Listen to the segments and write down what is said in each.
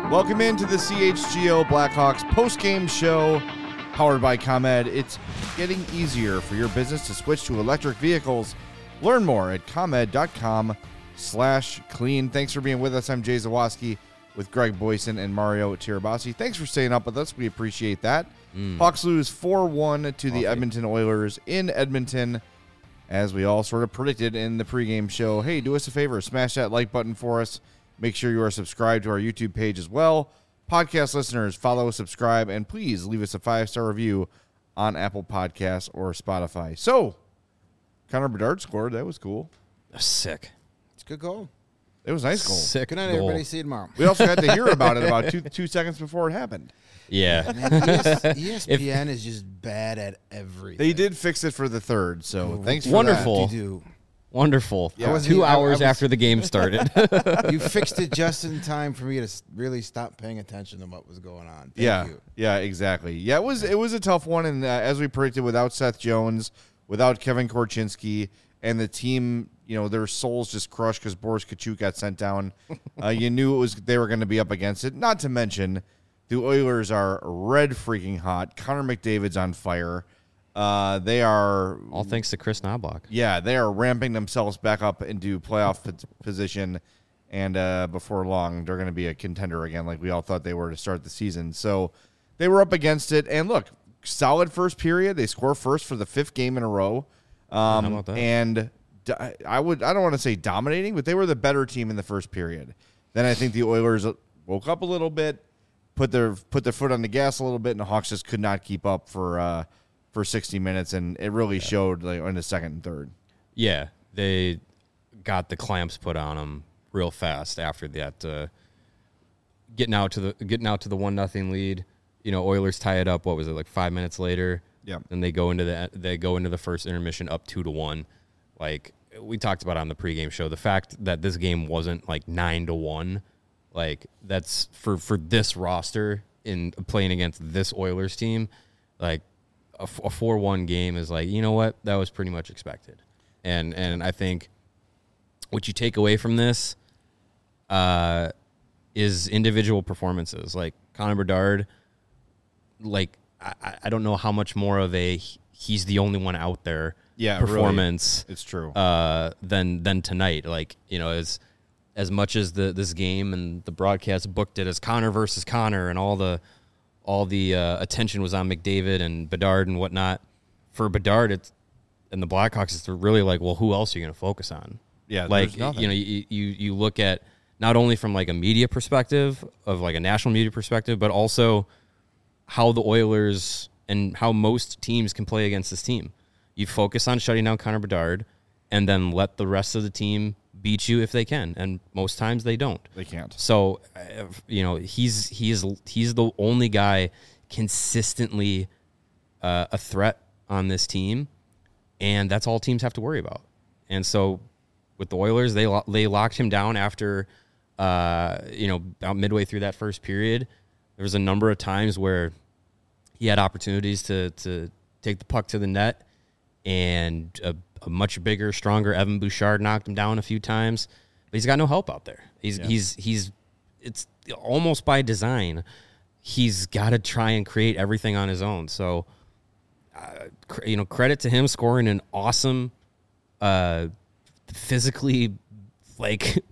Welcome into the CHGO Blackhawks post-game show powered by ComEd. It's getting easier for your business to switch to electric vehicles. Learn more at comed.com/clean. Thanks for being with us. I'm Jay Zawoski with Greg Boyson and Mario Tirabassi. Thanks for staying up with us. We appreciate that. Hawks lose 4-1 to the Edmonton Oilers in Edmonton, as we all sort of predicted in the pregame show. Hey, do us a favor. Smash that like button for us. Make sure you are subscribed to our YouTube page as well. Podcast listeners, follow, subscribe, and please leave us a 5-star review on Apple Podcasts or Spotify. So, Connor Bedard scored. That was cool. Sick. It's a good goal. It was a nice goal. Sick. Good night, goal. everybody. See you tomorrow. We also got to hear about it about two seconds before it happened. Yeah. Man, ESPN is just bad at everything. They did fix it for the third, so thanks for Wonderful. that. You Wonderful. Yeah. 2 hours after the game started. You fixed it just in time for me to really stop paying attention to what was going on. Thank you. Yeah, exactly. Yeah, it was a tough one, and as we predicted, without Seth Jones, without Kevin Korchinski, and the team, their souls just crushed because Boris Kachuk got sent down. You knew they were going to be up against it. Not to mention, the Oilers are red freaking hot. Connor McDavid's on fire. They are All thanks to Chris Knobloch. Yeah, they are ramping themselves back up into playoff position, and before long, they're going to be a contender again, like we all thought they were to start the season. So they were up against it, and look, solid first period. They score first for the 5th game in a row. How about that? And I don't want to say dominating, but they were the better team in the first period. Then I think the Oilers woke up a little bit, put their foot on the gas a little bit, and the Hawks just could not keep up for 60 minutes, and it really showed in the second and third. Yeah, they got the clamps put on them real fast after that. Getting out to the 1-0 lead. Oilers tie it up. What was it, like 5 minutes later? Yeah. And they go into the first intermission up 2-1. Like we talked about on the pregame show, the fact that this game wasn't like 9-1, like that's for this roster in playing against this Oilers team, like. A 4-1 game is like, you know what? That was pretty much expected. And I think what you take away from this is individual performances. Like Connor Bedard, like I don't know how much more of a he's the only one out there performance. Really, it's true. Than tonight. Like, as much as this game and the broadcast booked it as Connor versus Connor and all the attention was on McDavid and Bedard and whatnot. For Bedard, and the Blackhawks, it's really like, well, who else are you going to focus on? Yeah, like you look at not only from like a media perspective of like a national media perspective, but also how the Oilers and how most teams can play against this team. You focus on shutting down Connor Bedard, and then let the rest of the team beat you if they can, and most times they don't. They can't. So, he's the only guy consistently a threat on this team, and that's all teams have to worry about. And so, with the Oilers, they locked him down after, about midway through that first period. There was a number of times where he had opportunities to take the puck to the net, and a much bigger, stronger Evan Bouchard knocked him down a few times, but he's got no help out there. It's almost by design. He's got to try and create everything on his own. So, credit to him scoring an awesome, physically, like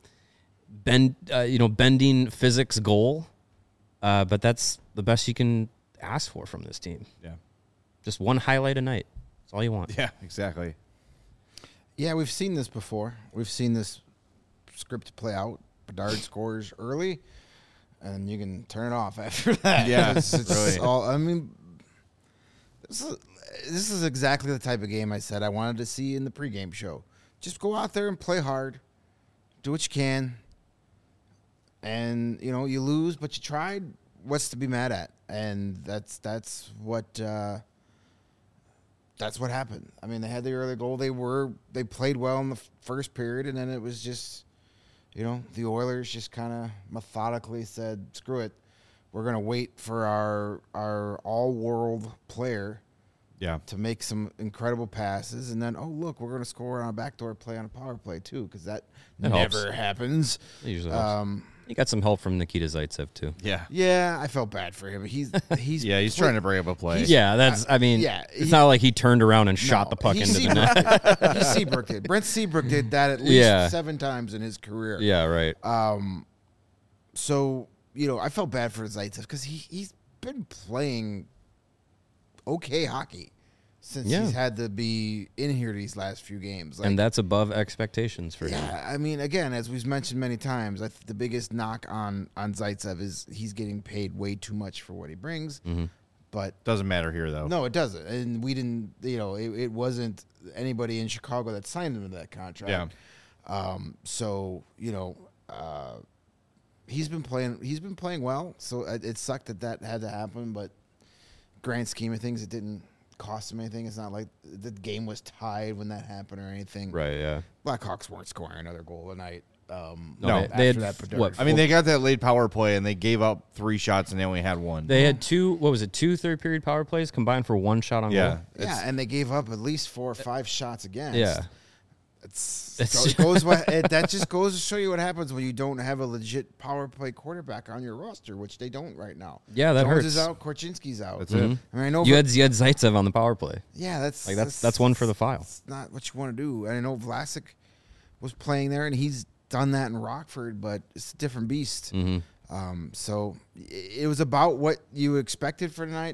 bending physics goal. But that's the best you can ask for from this team. Yeah, just one highlight a night. That's all you want. Yeah, exactly. Yeah, we've seen this before. We've seen this script play out. Bedard scores early, and you can turn it off after that. Yeah, it's really. all. I mean, this is exactly the type of game I said I wanted to see in the pregame show. Just go out there and play hard, do what you can, and you lose, but you tried. What's to be mad at? And that's what. That's what happened. I mean, they had the early goal. They played well in the first period, and then it was just, the Oilers just kind of methodically said, "Screw it, we're going to wait for our all-world player, to make some incredible passes, and then look, we're going to score on a backdoor play on a power play too, because that never happens." It usually helps. He got some help from Nikita Zaitsev too. Yeah. Yeah, I felt bad for him. He's Yeah, he's trying to bring up a play. Yeah, that's. I mean, it's not like he turned around and shot the puck into the net. He Seabrook did. Brent Seabrook did that at least 7 times in his career. Yeah, right. So, I felt bad for Zaitsev because he's been playing okay hockey since he's had to be in here these last few games. And that's above expectations for him. Yeah, I mean, again, as we've mentioned many times, the biggest knock on Zaitsev is he's getting paid way too much for what he brings. Mm-hmm. But doesn't matter here, though. No, it doesn't. And we didn't, it wasn't anybody in Chicago that signed him to that contract. Yeah. So, he's been playing well. So it sucked that had to happen, but grand scheme of things, it didn't cost him anything. It's not like the game was tied when that happened or anything. Right, yeah. Blackhawks weren't scoring another goal a night. No, they had what? I mean, they got that late power play and they gave up 3 shots and they only had 1. They had 2 third-period power plays combined for 1 shot on goal. Yeah, and they gave up at least 4 or 5 shots against. Yeah. That just goes to show you what happens when you don't have a legit power play quarterback on your roster, which they don't right now. Yeah, that Jones hurts. is out, Korchinski's out. That's it. I mean, I know You had Zaitsev on the power play. Yeah, that's one for the file. That's not what you want to do. And I know Vlasic was playing there, and he's done that in Rockford, but it's a different beast. Mm-hmm. So it was about what you expected for tonight.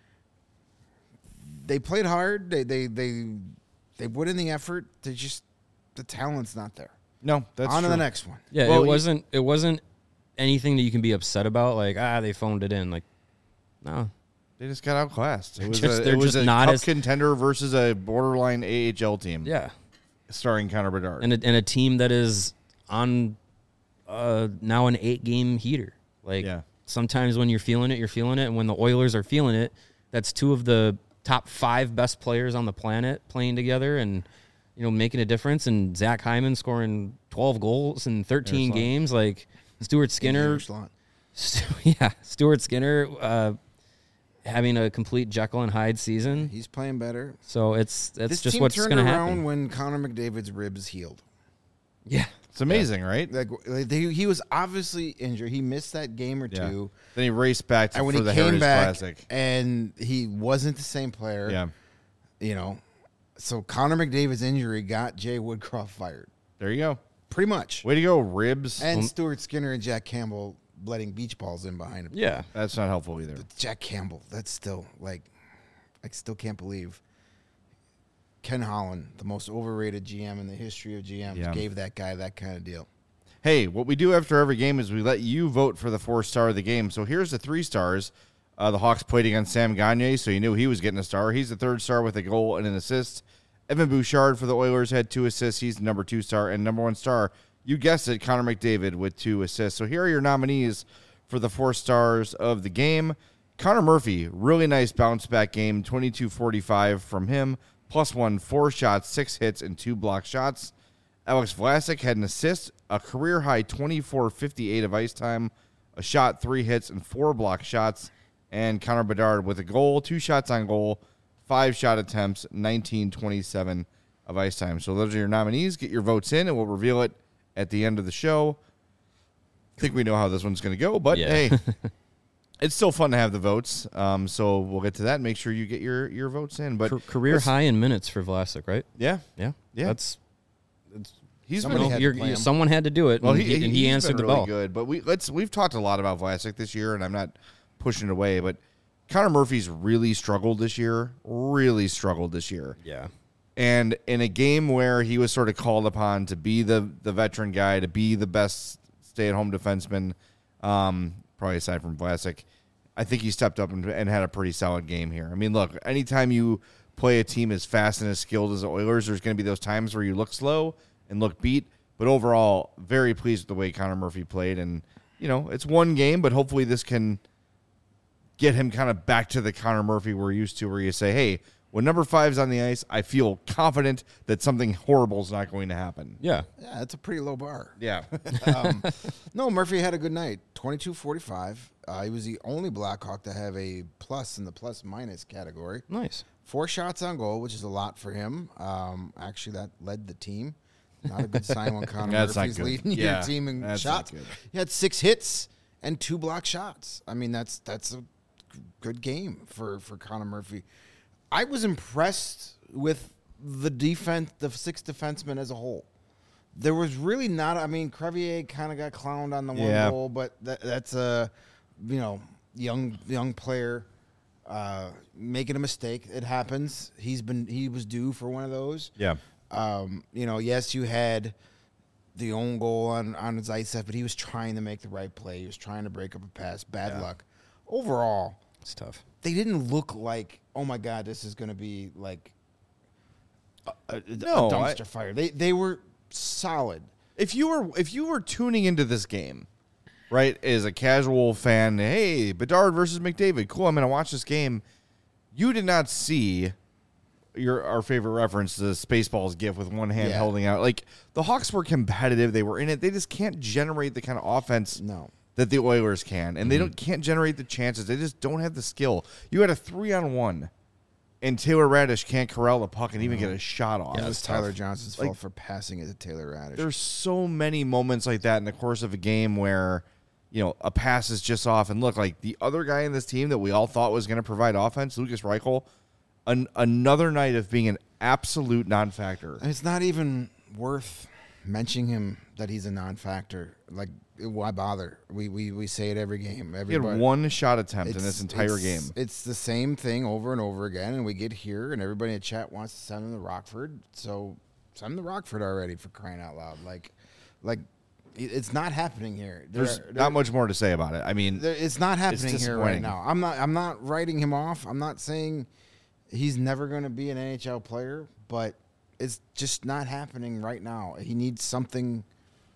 They played hard. They put in the effort. The talent's not there. No, that's on true. to the next one. Yeah, Well, it wasn't anything that you can be upset about. Like they phoned it in. Like, no, They just got outclassed. It was They're just a not cup as contender versus a borderline AHL team. yeah, starring Connor Bedard and a team that is on now an 8-game heater. Like sometimes when you're feeling it, and when the Oilers are feeling it, that's 2 of the top 5 best players on the planet playing together and making a difference. And Zach Hyman scoring 12 goals in 13 games. Like Stuart Skinner, Stuart Skinner having a complete Jekyll and Hyde season. He's playing better. So it's this just team what's going to happen when Connor McDavid's ribs healed. Yeah. It's amazing, right? He was obviously injured. He missed that game or 2. Then he raced back for the Heritage Classic. And he wasn't the same player. Yeah. So Connor McDavid's injury got Jay Woodcroft fired. There you go. Pretty much. Way to go, Ribs. And Stuart Skinner and Jack Campbell letting beach balls in behind him. Yeah. That's not helpful either. But Jack Campbell, that's still, I still can't believe Ken Holland, the most overrated GM in the history of GMs, gave that guy that kind of deal. Hey, what we do after every game is we let you vote for the 4-star of the game. So here's the 3 stars. The Hawks played against Sam Gagner, so you knew he was getting a star. He's the 3rd star with a goal and an assist. Evan Bouchard for the Oilers had 2 assists. He's the number 2 star. And number 1 star, you guessed it, Connor McDavid with 2 assists. So here are your nominees for the 4 stars of the game. Connor Murphy, really nice bounce-back game, 22-45 from him. +1, 4 shots, 6 hits, and 2 block shots. Alex Vlasic had an assist, a career-high 24-58 of ice time, a shot, 3 hits, and 4 block shots. And Connor Bedard with a goal, 2 shots on goal, 5 shot attempts, 19-27 of ice time. So those are your nominees. Get your votes in, and we'll reveal it at the end of the show. I think we know how this one's going to go, but hey, it's still fun to have the votes. So we'll get to that and make sure you get your votes in. But career high in minutes for Vlasic, right? Yeah. That's Somebody someone had to do it. Well, he answered been the really bell. good, but we've talked a lot about Vlasic this year, and I'm not pushing it away, but Connor Murphy's really struggled this year. Yeah. And in a game where he was sort of called upon to be the veteran guy, to be the best stay-at-home defenseman, probably aside from Vlasic, I think he stepped up and had a pretty solid game here. I mean, look, anytime you play a team as fast and as skilled as the Oilers, there's going to be those times where you look slow and look beat. But overall, very pleased with the way Connor Murphy played. And, it's one game, but hopefully this can get him kind of back to the Connor Murphy we're used to, where you say, hey, when number 5's on the ice, I feel confident that something horrible is not going to happen. Yeah. Yeah, that's a pretty low bar. Yeah. No, Murphy had a good night. 22-45. He was the only Blackhawk to have a plus in the plus-minus category. Nice. 4 shots on goal, which is a lot for him. Actually, that led the team. Not a good sign when Connor That's not Murphy's good. leading Yeah, your team in that's shots. not good. He had 6 hits and 2 block shots. I mean, that's a good game for Connor Murphy. I was impressed with the defense, the 6 defensemen as a whole. There was really not. I mean, Crevier kind of got clowned on the one goal, but that's a young player making a mistake. It happens. He was due for one of those. Yeah. Yes, you had the own goal on Zaitsev, but he was trying to make the right play. He was trying to break up a pass. Bad luck. Overall, It's tough. they didn't look like, oh my God, this is going to be like a No, dumpster fire. They were solid. If you were tuning into this game, right, as a casual fan, hey, Bedard versus McDavid, cool, I'm going to watch this game. You did not see our favorite reference, the Spaceballs gif with one hand holding out. Like, the Hawks were competitive. They were in it. They just can't generate the kind of offense that the Oilers can. And they can't generate the chances. They just don't have the skill. You had a 3-on-1, and Taylor Radish can't corral the puck and even get a shot off. It was Tyler Johnson's fault for passing it to Taylor Radish. There's so many moments like that in the course of a game where, a pass is just off. And look, like the other guy in this team that we all thought was going to provide offense, Lucas Reichel, another night of being an absolute non-factor. And it's not even worth mentioning him that he's a non-factor. Like, why bother? We say it every game. He had one shot attempt in this entire game. It's the same thing over and over again, and we get here, and everybody in the chat wants to send him to Rockford. So send him to Rockford already, for crying out loud. Like it's not happening here. There's not much more to say about it. I mean, it's not happening here right disappointing. now. I'm not writing him off. I'm not saying he's never going to be an NHL player, but it's just not happening right now. He needs something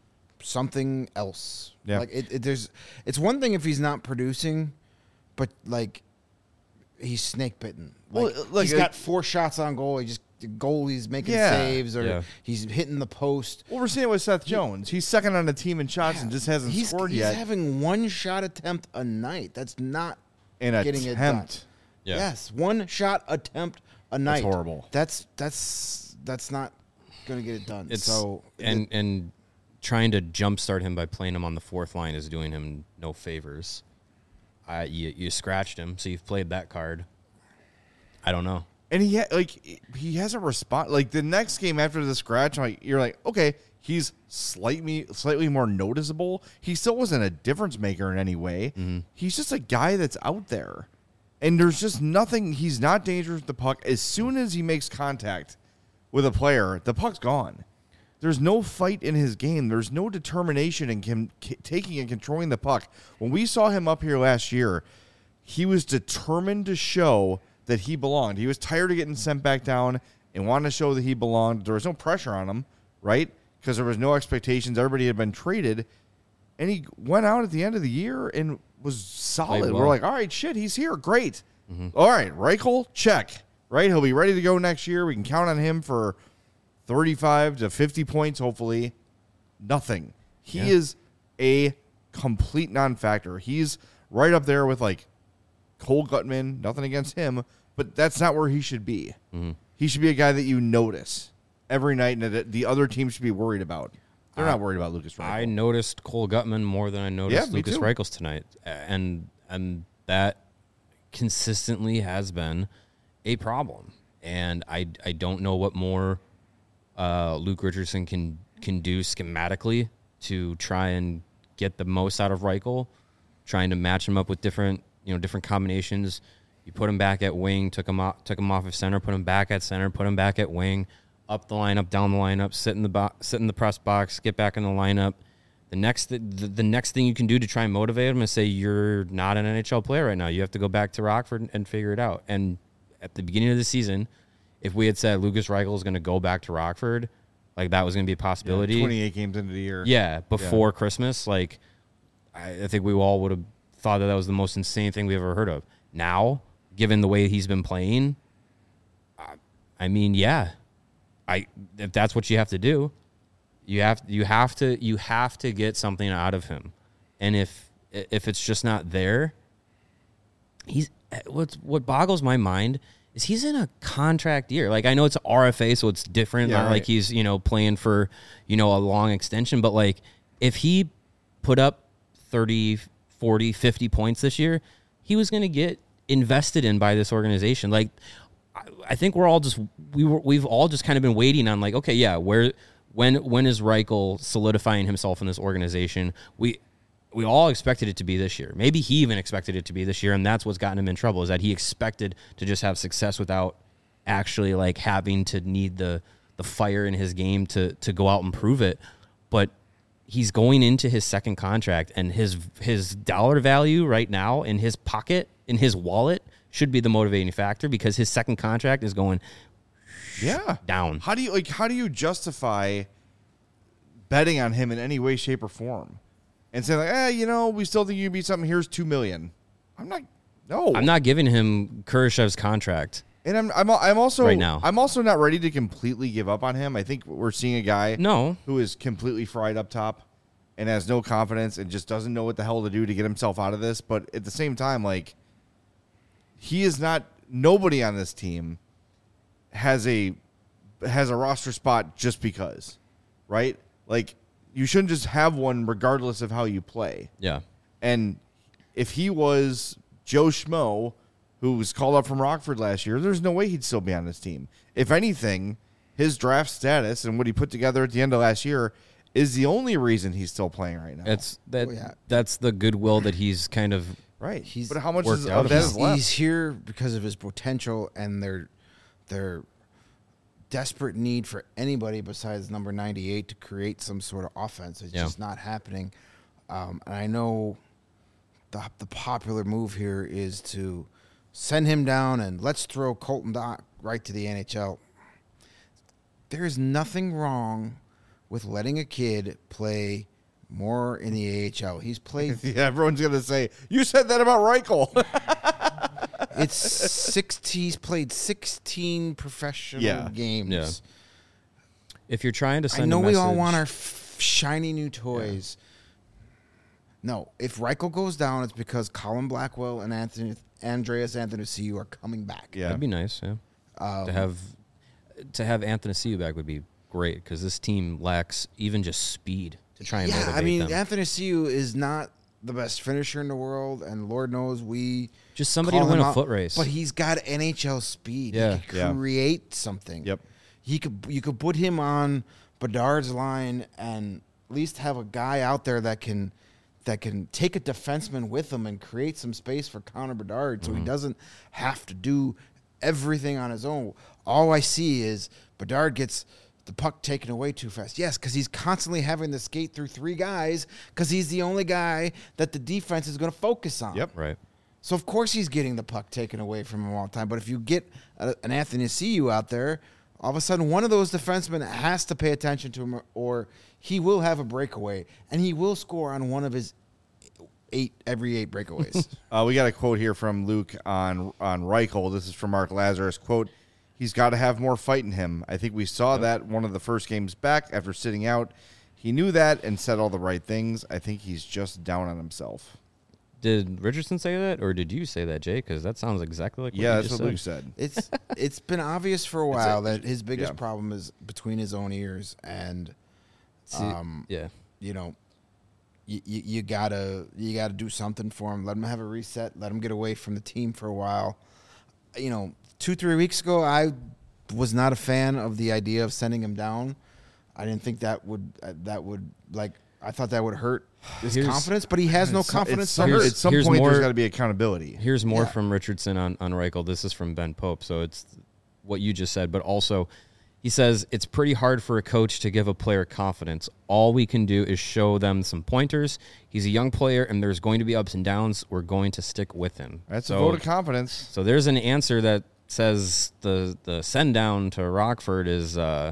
else. Yeah. Like it's one thing if he's not producing, but like he's snake bitten. Like, Well, look, he's got 4 shots on goal. He's making saves or he's hitting the post. well, we're seeing it with Seth Jones. He's second on the team in shots and just hasn't scored yet. He's having 1 shot attempt a night. That's not An getting it done. attempt. Yeah. Yes, 1 shot attempt a night. That's horrible. That's not going to get it done. And trying to jumpstart him by playing him on the 4th line is doing him no favors. You scratched him, so you've played that card. I don't know. And he hasn't responded. Like the next game after the scratch, you're like, okay, he's slightly more noticeable. He still wasn't a difference maker in any way. Mm-hmm. He's just a guy that's out there, and there's just nothing. He's not dangerous with the puck. As soon as he makes contact with a player, the puck's gone. There's no fight in his game. There's no determination in him taking and controlling the puck. When we saw him up here last year, he was determined to show that he belonged. He was tired of getting sent back down and wanted to show that he belonged. There was no pressure on him, right? Because there was no expectations. Everybody had been traded. And he went out at the end of the year and was solid. well. We're like, all right, shit, he's here. Great. Mm-hmm. All right, Reichel, check. Right? He'll be ready to go next year. We can count on him for 35 to 50 points, hopefully. Nothing. He is a complete non-factor. He's right up there with, like, Cole Gutman. Nothing against him, but that's not where he should be. Mm-hmm. He should be a guy that you notice every night and that the other team should be worried about. They're not worried about Lucas Reichel. I noticed Cole Gutman more than I noticed Lucas too. Reichel's tonight, and that consistently has been a problem. And I don't know what more Luke Richardson can do schematically to try and get the most out of Reichel, trying to match him up with different combinations. You put him back at wing, took him off of center, put him back at center, put him back at wing, up the lineup, down the lineup, sit in the press box, get back in the lineup. The next thing you can do to try and motivate him is say you're not an NHL player right now. You have to go back to Rockford and figure it out. And at the beginning of the season, if we had said Lucas Reichel is going to go back to Rockford, like that was going to be a possibility. 28 games into the year. Yeah, before Christmas, like I think we all would have thought that was the most insane thing we ever heard of. Now, given the way he's been playing, I mean, if that's what you have to do, you have to get something out of him, and if it's just not there, what boggles my mind is he's in a contract year. Like, I know it's RFA, so it's different. Yeah, Not right. like he's, playing for, a long extension. But, like, if he put up 30, 40, 50 points this year, he was going to get invested in by this organization. Like, I think we're all just we've all just kind of been waiting on, like, okay, yeah, when is Reichel solidifying himself in this organization? We all expected it to be this year. Maybe he even expected it to be this year, and that's what's gotten him in trouble, is that he expected to just have success without actually, like, having to need the fire in his game to go out and prove it. But he's going into his second contract, and his dollar value right now in his pocket, in his wallet, should be the motivating factor, because his second contract is going down. How do you justify betting on him in any way, shape, or form? And say, like, we still think you can beat something. Here's $2 million. I'm not giving him Kurashev's contract. And I'm also right now. I'm also not ready to completely give up on him. I think we're seeing a guy who is completely fried up top and has no confidence and just doesn't know what the hell to do to get himself out of this. But at the same time, like, he is not. Nobody on this team has a roster spot just because, right? Like, you shouldn't just have one regardless of how you play. Yeah. And if he was Joe Schmo, who was called up from Rockford last year, there's no way he'd still be on this team. If anything, his draft status and what he put together at the end of last year is the only reason he's still playing right now. That's the goodwill that he's kind of right. But how much of out that is left? He's here because of his potential and their desperate need for anybody besides number 98 to create some sort of offense. It's just not happening. And I know the popular move here is to send him down and let's throw Colton Dock right to the NHL. There is nothing wrong with letting a kid play more in the AHL. He's played. Yeah, everyone's gonna say you said that about Reichel. He's played 16 professional games. Yeah. If you're trying to send, I know a we message, all want our shiny new toys. Yeah. No, if Reichel goes down, it's because Colin Blackwell and Andreas Anthony are coming back. Yeah, that'd be nice. Yeah, to have Anthony back would be great, because this team lacks even just speed to try and motivate them. Anthony is not the best finisher in the world, and Lord knows we just somebody to win a foot race. But he's got NHL speed. Yeah. He could create something. Yep. You could put him on Bedard's line and at least have a guy out there that can take a defenseman with him and create some space for Connor Bedard, so he doesn't have to do everything on his own. All I see is Bedard gets the puck taken away too fast. Yes, because he's constantly having to skate through three guys because he's the only guy that the defense is going to focus on. Yep. Right. So, of course, he's getting the puck taken away from him all the time. But if you get an Anthony Ciu out there, all of a sudden one of those defensemen has to pay attention to him, or he will have a breakaway, and he will score on one of his every eight breakaways. We got a quote here from Luke on Reichel. This is from Mark Lazarus. Quote, "He's got to have more fight in him. I think we saw that one of the first games back after sitting out. He knew that and said all the right things. I think he's just down on himself." Did Richardson say that, or did you say that, Jay? Because that sounds exactly like what you that's just what said. Luke said. It's been obvious for a while that his biggest problem is between his own ears, and you know, you gotta do something for him. Let him have a reset. Let him get away from the team for a while. 2-3 weeks ago, I was not a fan of the idea of sending him down. I didn't think that would I thought that would hurt his confidence, but he has no confidence to hurt. At some point, there's got to be accountability. Here's more from Richardson on Reichel. This is from Ben Pope, so it's what you just said, but also he says it's pretty hard for a coach to give a player confidence. All we can do is show them some pointers. He's a young player, and there's going to be ups and downs. We're going to stick with him. That's a vote of confidence. So there's an answer that says the send down to Rockford is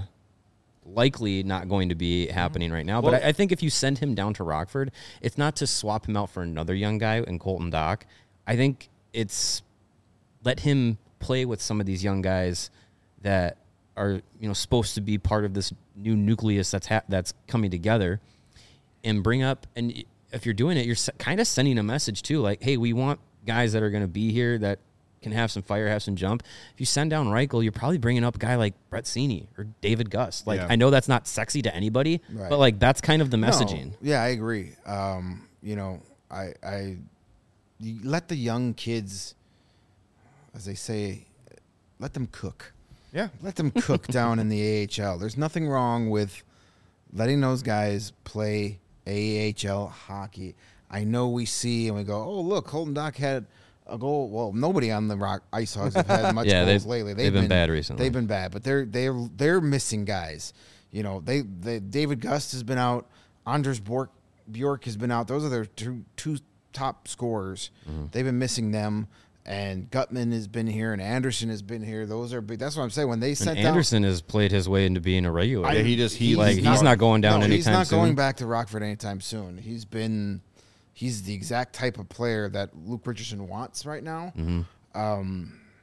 likely not going to be happening right now. But I think if you send him down to Rockford, it's not to swap him out for another young guy in Colton Dock. I think it's let him play with some of these young guys that are supposed to be part of this new nucleus that's coming together, and bring up. And if you're doing it, you're kind of sending a message too, like, hey, we want guys that are going to be here that can have some fire, have some jump. If you send down Reichel, you're probably bringing up a guy like Brett Seney or David Gust. Like, I know that's not sexy to anybody, but like that's kind of the messaging. No, yeah, I agree. You know, you let the young kids, as they say, let them cook. Yeah. Let them cook down in the AHL. There's nothing wrong with letting those guys play AHL hockey. I know we see and we go, oh, look, Colton Dach had a goal. Well, nobody on the Ice Hogs have had much goals lately. They've been bad recently. They've been bad, but they're missing guys. You know, they David Gust has been out. Anders Bjork has been out. Those are their two top scorers. Mm-hmm. They've been missing them. And Gutman has been here, and Anderson has been here. Those are big. That's what I'm saying. When they sent Anderson has played his way into being a regular. He's not going down anytime soon. He's not going back to Rockford anytime soon. He's the exact type of player that Luke Richardson wants right now. Mm-hmm.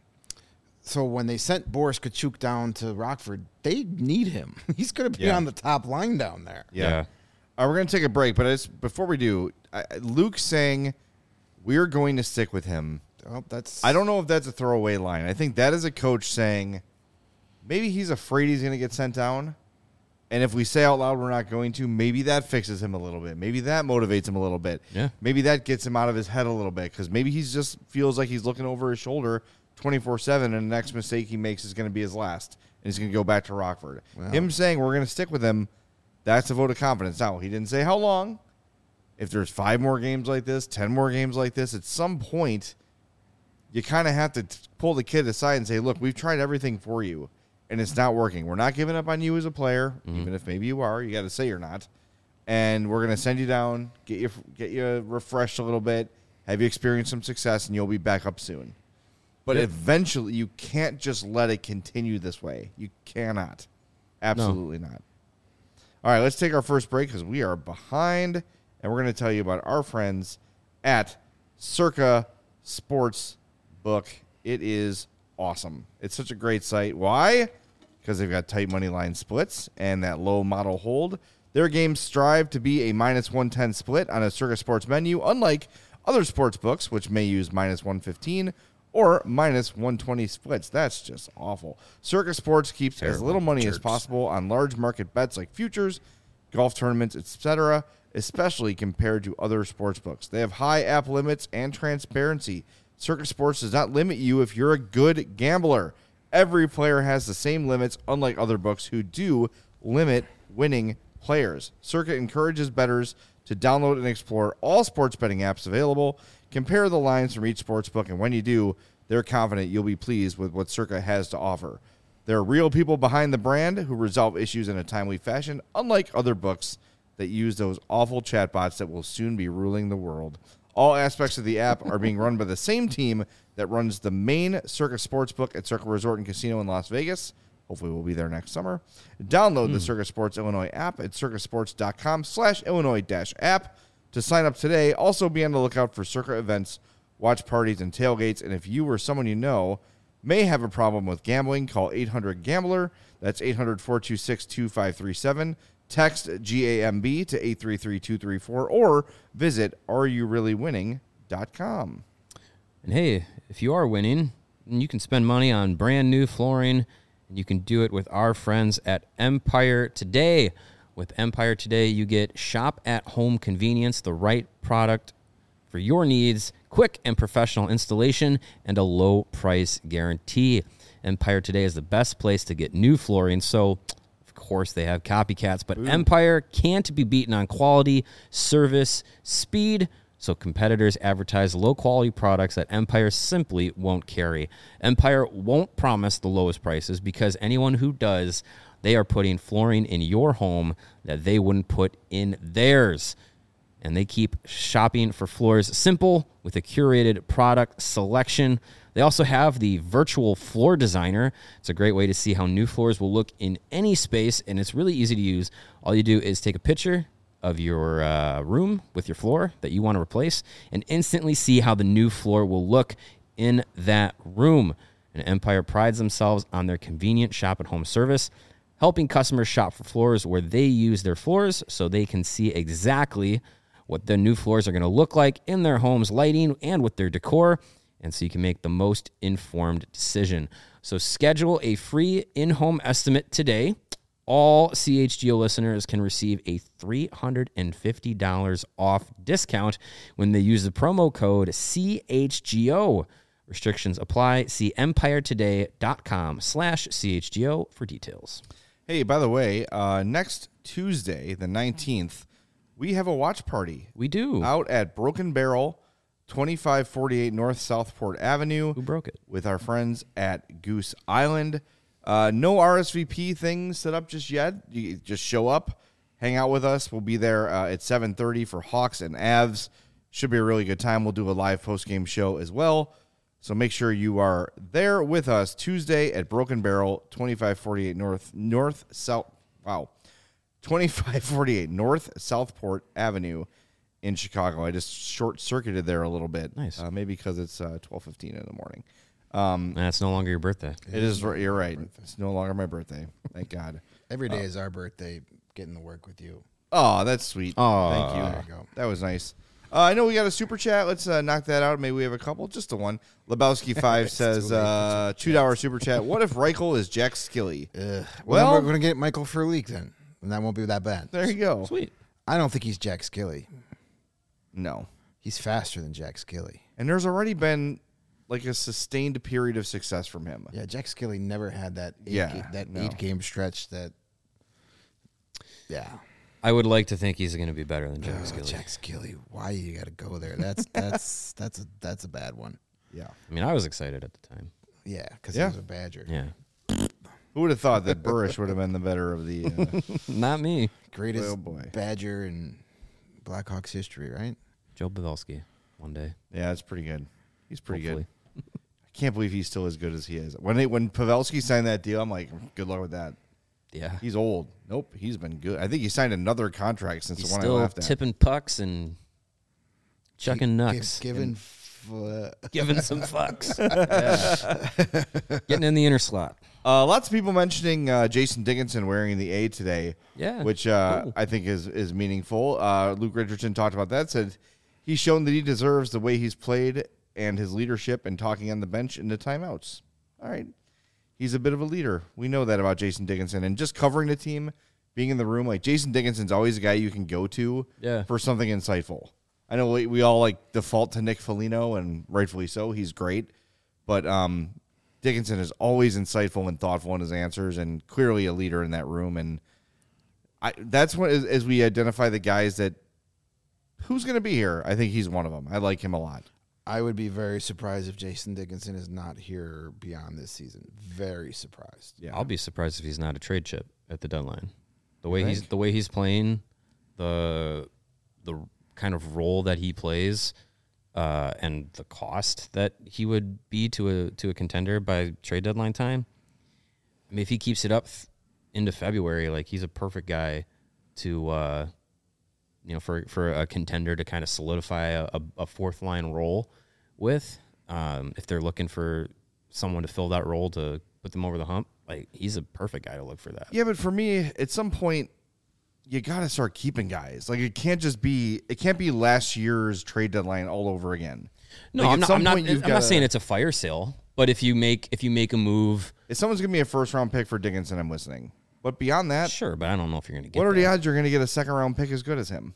So when they sent Boris Kachuk down to Rockford, they need him. He's going to be on the top line down there. Yeah. We're going to take a break, but before we do, Luke's saying we're going to stick with him. Oh, I don't know if that's a throwaway line. I think that is a coach saying maybe he's afraid he's going to get sent down. And if we say out loud we're not going to, maybe that fixes him a little bit. Maybe that motivates him a little bit. Yeah. Maybe that gets him out of his head a little bit because maybe he just feels like he's looking over his shoulder 24/7 and the next mistake he makes is going to be his last. And he's going to go back to Rockford. Wow. Him saying we're going to stick with him, that's a vote of confidence. Now, he didn't say how long. If there's 5 more games like this, 10 more games like this, at some point – you kind of have to pull the kid aside and say, look, we've tried everything for you, and it's not working. We're not giving up on you as a player, even if maybe you are. You got to say you're not. And we're going to send you down, get you refreshed a little bit, have you experience some success, and you'll be back up soon. But eventually, you can't just let it continue this way. You cannot. Absolutely not. All right, let's take our first break because we are behind, and we're going to tell you about our friends at Circa Sports Book. It is awesome. It's such a great site. Why? Because they've got tight money line splits and that low model hold. Their games strive to be a -110 split on a Circa Sports menu, unlike other sports books, which may use -115 or -120 splits. That's just awful. Circa Sports keeps as little money as possible on large market bets like futures, golf tournaments, etc., especially compared to other sports books. They have high app limits and transparency. Circa Sports does not limit you if you're a good gambler. Every player has the same limits, unlike other books who do limit winning players. Circa encourages bettors to download and explore all sports betting apps available, compare the lines from each sports book, and when you do, they're confident you'll be pleased with what Circa has to offer. There are real people behind the brand who resolve issues in a timely fashion, unlike other books that use those awful chatbots that will soon be ruling the world. All aspects of the app are being run by the same team that runs the main Circa Sportsbook at Circa Resort and Casino in Las Vegas. Hopefully we'll be there next summer. Download the Circa Sports Illinois app at circasports.com/Illinois-app to sign up today. Also be on the lookout for Circa events, watch parties, and tailgates. And if you or someone you know may have a problem with gambling, call 800-GAMBLER. That's 800-426-2537. Text GAMB to 833-234 or visit areyourreallywinning.com. And hey, if you are winning, you can spend money on brand new flooring, and you can do it with our friends at Empire Today. With Empire Today, you get shop-at-home convenience, the right product for your needs, quick and professional installation, and a low price guarantee. Empire Today is the best place to get new flooring, so of course they have copycats, but Empire can't be beaten on quality, service, speed, so competitors advertise low-quality products that Empire simply won't carry. Empire won't promise the lowest prices because anyone who does, they are putting flooring in your home that they wouldn't put in theirs. And they keep shopping for floors simple with a curated product selection. They also have the virtual floor designer. It's a great way to see how new floors will look in any space, and it's really easy to use. All you do is take a picture of your room with your floor that you want to replace and instantly see how the new floor will look in that room. And Empire prides themselves on their convenient shop-at-home service, helping customers shop for floors where they use their floors so they can see exactly what the new floors are going to look like in their home's lighting and with their decor. and so you can make the most informed decision. So schedule a free in-home estimate today. All CHGO listeners can receive a $350 off discount when they use the promo code CHGO. Restrictions apply. See empiretoday.com/CHGO for details. Hey, by the way, next Tuesday, the 19th, we have a watch party. We do. Out at Broken Barrel, 2548 North Southport Avenue. Who broke it? With our friends at Goose Island. No RSVP thing set up just yet. You just show up, hang out with us. We'll be there at 7:30 for Hawks and Avs. Should be a really good time. We'll do a live post-game show as well. So make sure you are there with us Tuesday at Broken Barrel, 2548 2548 North Southport Avenue in Chicago. I just short-circuited there a little bit. Nice. Maybe because it's 12:15 in the morning. That's no longer your birthday. It is. You're right. It's no longer my birthday. Thank God. Every day is our birthday. Getting to work with you. Oh, that's sweet. Aw. Thank you. There you go. That was nice. I know we got a super chat. Let's knock that out. Maybe we have a couple. Just the one. Lebowski 5 says, $2 super chat. What if Reichel is Jack Skilly? Well, Well- then we're going to get Michael Furleek then, and that won't be that bad. There you go. Sweet. I don't think he's Jack Skilly. No. He's faster than Jack Skilly. And there's already been like a sustained period of success from him. Yeah, Jack Skilly never had that Yeah, no. 8-game stretch that. Yeah. I would like to think he's going to be better than Jack Skilly. Jack Skilly, why you got to go there? That's a bad one. Yeah. I mean, I was excited at the time. Yeah, because Yeah. he was a Badger. Yeah. Who would have thought that Burrish would have been the better of the... Not me. Greatest Oh, boy. Badger in Blackhawks history, right? Joe Pavelski one day. Yeah, it's pretty good. He's pretty Hopefully. good. I can't believe he's still as good as he is. When Pavelski signed that deal, I'm like, good luck with that. Yeah. He's old. Nope, he's been good. I think he signed another contract since He's the one I still left at. tipping pucks and chucking nucks. Given Giving some fucks. Yeah. Getting in the inner slot. Lots of people mentioning Jason Dickinson wearing the A today. Yeah, which cool. I think is meaningful. Luke Richardson talked about that. Said he's shown that he deserves the way he's played and his leadership and talking on the bench in the timeouts. All right, he's a bit of a leader. We know that about Jason Dickinson, and just covering the team, being in the room. Like Jason Dickinson's always a guy you can go to for something insightful. I know we all like default to Nick Foligno, and rightfully so. He's great, but Dickinson is always insightful and thoughtful in his answers, and clearly a leader in that room. And that's what, as we identify the guys that who's going to be here, I think he's one of them. I like him a lot. I would be very surprised if Jason Dickinson is not here beyond this season. Very surprised. Yeah, I'll be surprised if he's not a trade chip at the deadline. The way think? he's playing, the kind of role that he plays, and the cost that he would be to a contender by trade deadline time. I mean, if he keeps it up into February, like he's a perfect guy to for a contender to kind of solidify a fourth line role with. If they're looking for someone to fill that role to put them over the hump, like he's a perfect guy to look for that. Yeah, but for me, at some point, you got to start keeping guys. Like it can't be last year's trade deadline all over again. No, Like, I'm not saying it's a fire sale, but if you make a move, if someone's gonna be a first round pick for Dickinson, I'm listening. But beyond that, sure, but I don't know if you're going to get what are the that. odds you're going to get a second round pick as good as him?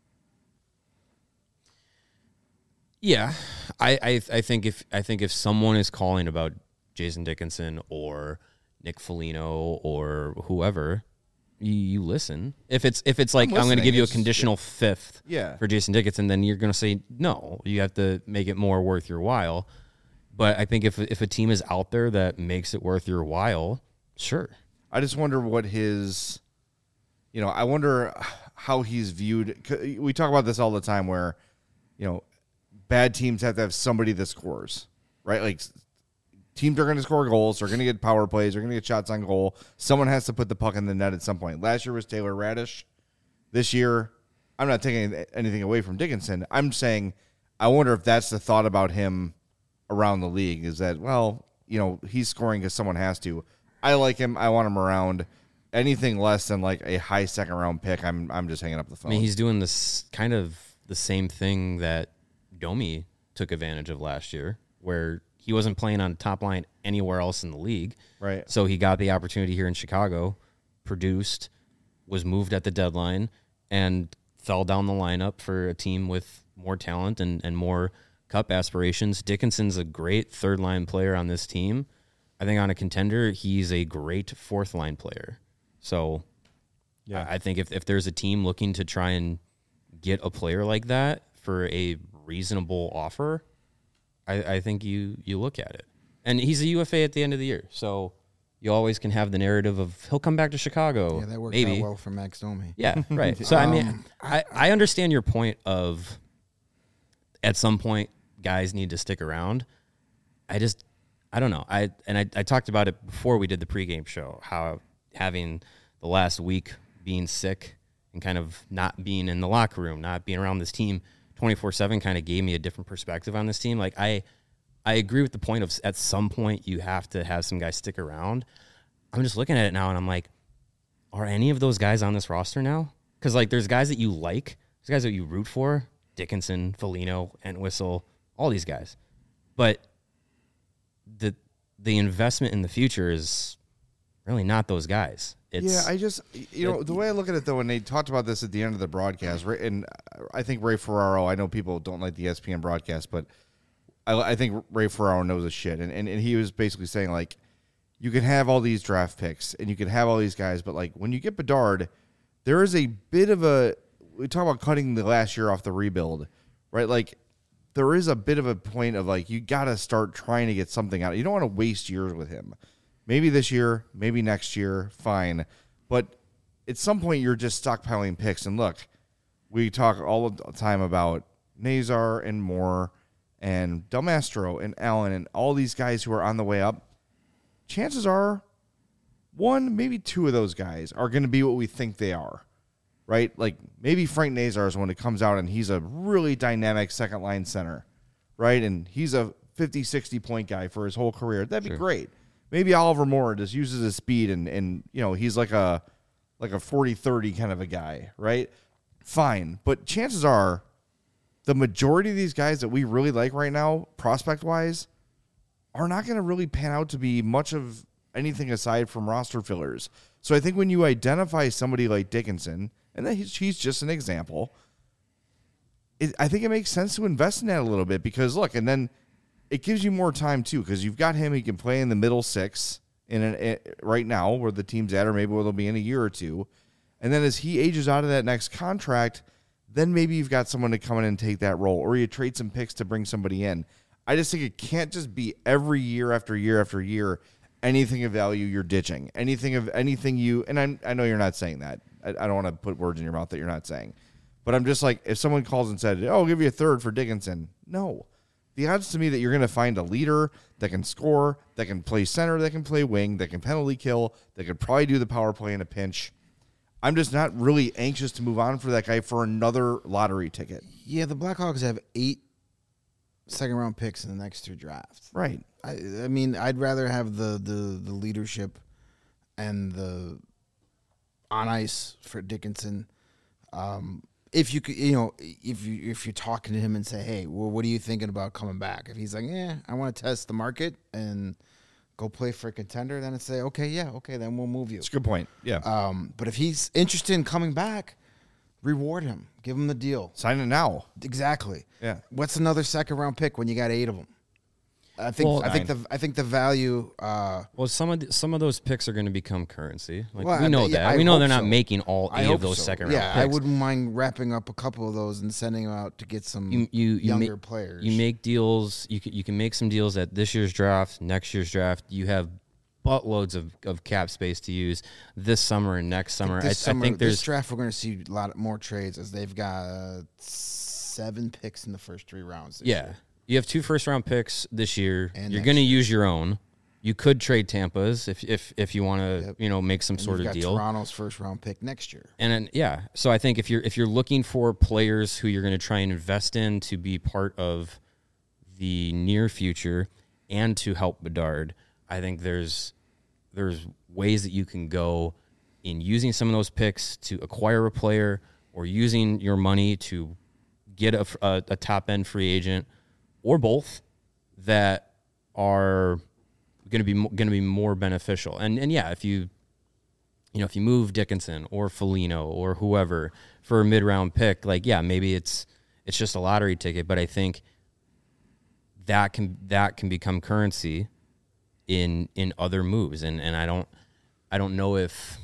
Yeah, I think if someone is calling about Jason Dickinson or Nick Foligno or whoever, you listen. If it's like I'm going to listening. give you a It's- conditional fifth Yeah. for Jason Dickinson, then you're going to say no. You have to make it more worth your while. But I think if a team is out there that makes it worth your while, sure. I just wonder what his, I wonder how he's viewed. 'Cause we talk about this all the time where, bad teams have to have somebody that scores, right? Like teams are going to score goals. They're going to get power plays. They're going to get shots on goal. Someone has to put the puck in the net at some point. Last year was Taylor Radish. This year, I'm not taking anything away from Dickinson. I'm saying I wonder if that's the thought about him around the league is that, he's scoring because someone has to. I like him. I want him around. Anything less than like a high second round pick, I'm just hanging up the phone. I mean, he's doing this kind of the same thing that Domi took advantage of last year, where he wasn't playing on the top line anywhere else in the league. Right. So he got the opportunity here in Chicago, produced, was moved at the deadline, and fell down the lineup for a team with more talent and more cup aspirations. Dickinson's a great third-line player on this team. I think on a contender, he's a great fourth-line player. So I think if there's a team looking to try and get a player like that for a reasonable offer, I think you look at it. And he's a UFA at the end of the year, so you always can have the narrative of he'll come back to Chicago. Yeah, that worked maybe. out well for Max Domi. Yeah, right. So, I mean, I understand your point of at some point guys need to stick around. I don't know. I talked about it before we did the pregame show, how having the last week being sick and kind of not being in the locker room, not being around this team 24/7 kind of gave me a different perspective on this team. Like I agree with the point of at some point you have to have some guys stick around. I'm just looking at it now and I'm like, are any of those guys on this roster now? Because like there's guys that you like, there's guys that you root for, Dickinson, Foligno, Entwistle, all these guys. But the investment in the future is really not those guys. I just, the way I look at it, though, and they talked about this at the end of the broadcast, right? And I think Ray Ferraro, I know people don't like the ESPN broadcast, but I think Ray Ferraro knows his shit. And he was basically saying, like, you can have all these draft picks and you can have all these guys, but, like, when you get Bedard, there is a bit of we talk about cutting the last year off the rebuild, right? Like, there is a bit of a point of, like, you got to start trying to get something out. You don't want to waste years with him. Maybe this year, maybe next year, fine. But at some point, you're just stockpiling picks. And look, we talk all the time about Nazar and Moore and Del Mastro and Allen and all these guys who are on the way up. Chances are one, maybe two of those guys are going to be what we think they are, right? Like maybe Frank Nazar is when it comes out and he's a really dynamic second-line center, right? And he's a 50, 60-point guy for his whole career. That'd be great. Maybe Oliver Moore just uses his speed and he's like a 40-30 kind of a guy, right? Fine. But chances are the majority of these guys that we really like right now, prospect-wise, are not going to really pan out to be much of anything aside from roster fillers. So I think when you identify somebody like Dickinson, and then he's just an example, I think it makes sense to invest in that a little bit because, look, and then it gives you more time, too, because you've got him. He can play in the middle six right now where the team's at or maybe where they'll be in a year or two. And then as he ages out of that next contract, then maybe you've got someone to come in and take that role or you trade some picks to bring somebody in. I just think it can't just be every year after year after year anything of value you're ditching. Anything you – and I know you're not saying that. I don't want to put words in your mouth that you're not saying. But I'm just like if someone calls and said, I'll give you a third for Dickinson. No. The odds to me that you're going to find a leader that can score, that can play center, that can play wing, that can penalty kill, that could probably do the power play in a pinch. I'm just not really anxious to move on for that guy for another lottery ticket. Yeah, the Blackhawks have 8 second-round picks in the next 2 drafts. Right. I mean, I'd rather have the leadership and the on ice for Dickinson. If you could, if you're talking to him and say, hey, well, what are you thinking about coming back? If he's like, I want to test the market and go play for a contender, then I'd say, okay, then we'll move you. That's a good point. Yeah. But if he's interested in coming back, reward him. Give him the deal. Sign it now. Exactly. Yeah. What's another second-round pick when you got 8 of them? I think the value. Well, some of those picks are going to become currency. Like Well, we know yeah, that. I We know hope they're not so. making all I 8 hope of those so. second round Yeah, picks. I wouldn't mind wrapping up a couple of those and sending them out to get some younger players. You make deals. You can make some deals at this year's draft, next year's draft. You have buttloads of cap space to use this summer and next summer. I think this draft we're going to see a lot more trades as they've got 7 picks in the first 3 rounds. This year. You have 2 first-round picks this year. And You're next going to year. use your own. You could trade Tampa's if you want to make some And sort you've of got deal. Toronto's first-round pick next year. And then, so I think if you're looking for players who you're going to try and invest in to be part of the near future and to help Bedard, I think there's ways that you can go in using some of those picks to acquire a player or using your money to get a top-end free agent or both. that are going to be more beneficial. And yeah, if you move Dickinson or Foligno or whoever for a mid-round pick, like, yeah, maybe it's just a lottery ticket, but I think that can become currency in other moves. And I don't know if,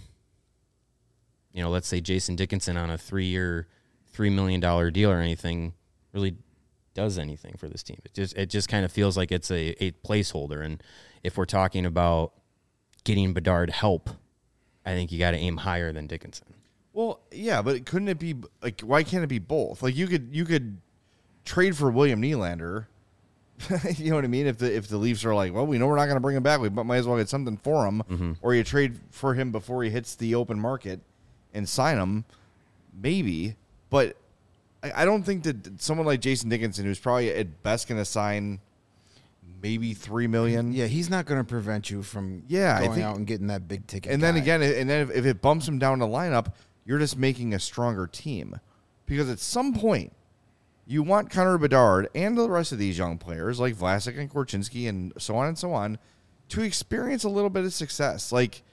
let's say Jason Dickinson on a 3-year, $3 million deal or anything really does anything for this team. It just kind of feels like it's a placeholder. And if we're talking about getting Bedard help, I think you got to aim higher than Dickinson. Well, yeah, but couldn't it be like, why can't it be both? Like, you could trade for William Nylander. You know what I mean? If the Leafs are like, well, we know we're not going to bring him back, we might as well get something for him. Mm-hmm. Or you trade for him before he hits the open market and sign him, maybe. But I don't think that someone like Jason Dickinson, who's probably at best going to sign maybe $3 million. Yeah, he's not going to prevent you from going out and getting that big ticket. And then again, if it bumps him down the lineup, you're just making a stronger team. Because at some point, you want Connor Bedard and the rest of these young players like Vlasic and Korchinski and so on to experience a little bit of success. Like,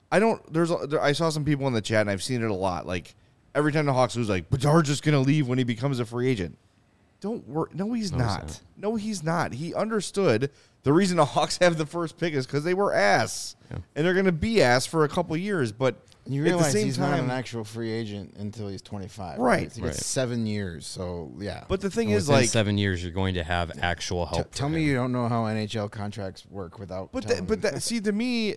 I saw some people in the chat, and I've seen it a lot. Like, every time the Hawks lose, like, Bedard's just going to leave when he becomes a free agent. Don't worry. No, he's not. No, he's not. He understood the reason the Hawks have the first pick is because they were ass. Yeah. And they're going to be ass for a couple years. But you realize at the same he's time, not an actual free agent until he's 25. Right. He gets 7 years. So, yeah. But the thing and is, within like, 7 years, you're going to have actual help. Tell me you don't know how NHL contracts work without. See, to me,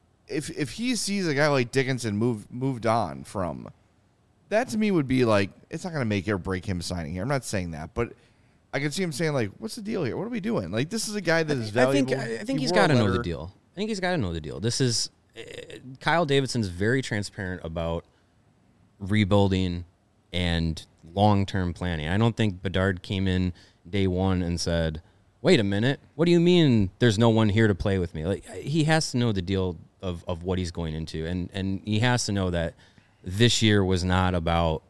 if he sees a guy like Dickinson moved on from, that to me would be like, it's not going to make or break him signing here. I'm not saying that, but I can see him saying, like, what's the deal here? What are we doing? Like, this is a guy that is valuable. I think he's got to know the deal. I think he's got to know the deal. This is Kyle Davidson's very transparent about rebuilding and long-term planning. I don't think Bedard came in day one and said, wait a minute, what do you mean there's no one here to play with me? Like, he has to know the deal of what he's going into, and he has to know that this year was not about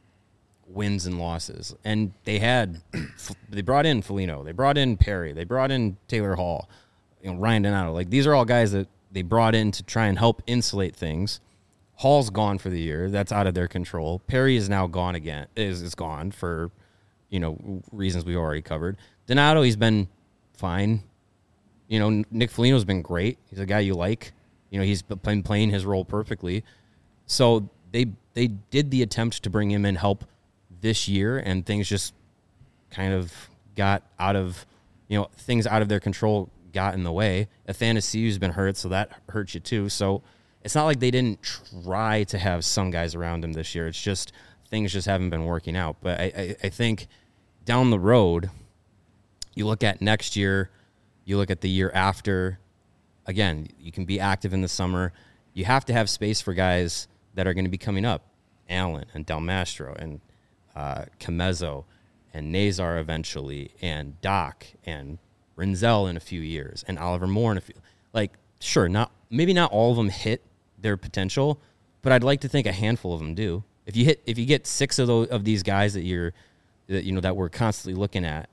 wins and losses. And they brought in Foligno, they brought in Perry, they brought in Taylor Hall, Ryan Donato. Like, these are all guys that they brought in to try and help insulate things. Hall's gone for the year. That's out of their control. Perry is now gone again. Is gone for, reasons we already covered. Donato, he's been fine. Nick Foligno's been great. He's a guy you like. He's been playing his role perfectly. So they did the attempt to bring him in help this year, and things just kind of got out of, things out of their control got in the way. Athanasiou's been hurt, so that hurts you too. So it's not like they didn't try to have some guys around him this year. It's just things just haven't been working out. But I think down the road, you look at next year, you look at the year after, again, you can be active in the summer. You have to have space for guys that are going to be coming up. Allen and Del Mastro and Camezzo and Nazar eventually and Doc and Rinzel in a few years and Oliver Moore in a few. Like, sure, maybe not all of them hit their potential, but I'd like to think a handful of them do. If you get 6 of these guys that we're constantly looking at,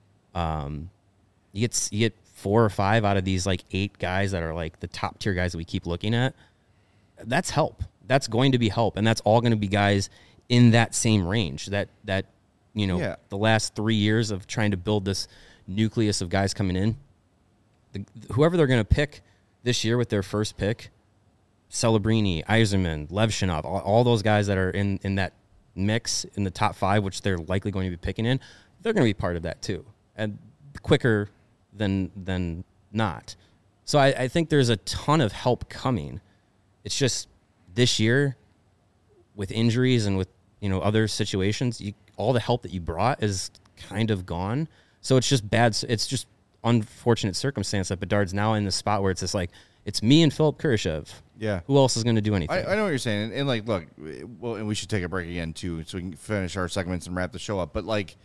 you get 4 or 5 out of these like 8 guys that are like the top tier guys that we keep looking at. That's help. That's going to be help, and that's all going to be guys in that same range. The last 3 years of trying to build this nucleus of guys coming in, whoever they're going to pick this year with their first pick, Celebrini, Yzerman, Levshinov, all those guys that are in that mix in the top 5, which they're likely going to be picking in, they're going to be part of that too, and quicker than not. So I think there's a ton of help coming. It's just this year with injuries and with other situations, all the help that you brought is kind of gone. So it's just bad. It's just unfortunate circumstance that Bedard's now in the spot where it's just like, it's me and Philip Kurashev. Yeah. Who else is going to do anything? I know what you're saying. And like, look, well, and we should take a break again too, so we can finish our segments and wrap the show up. But like,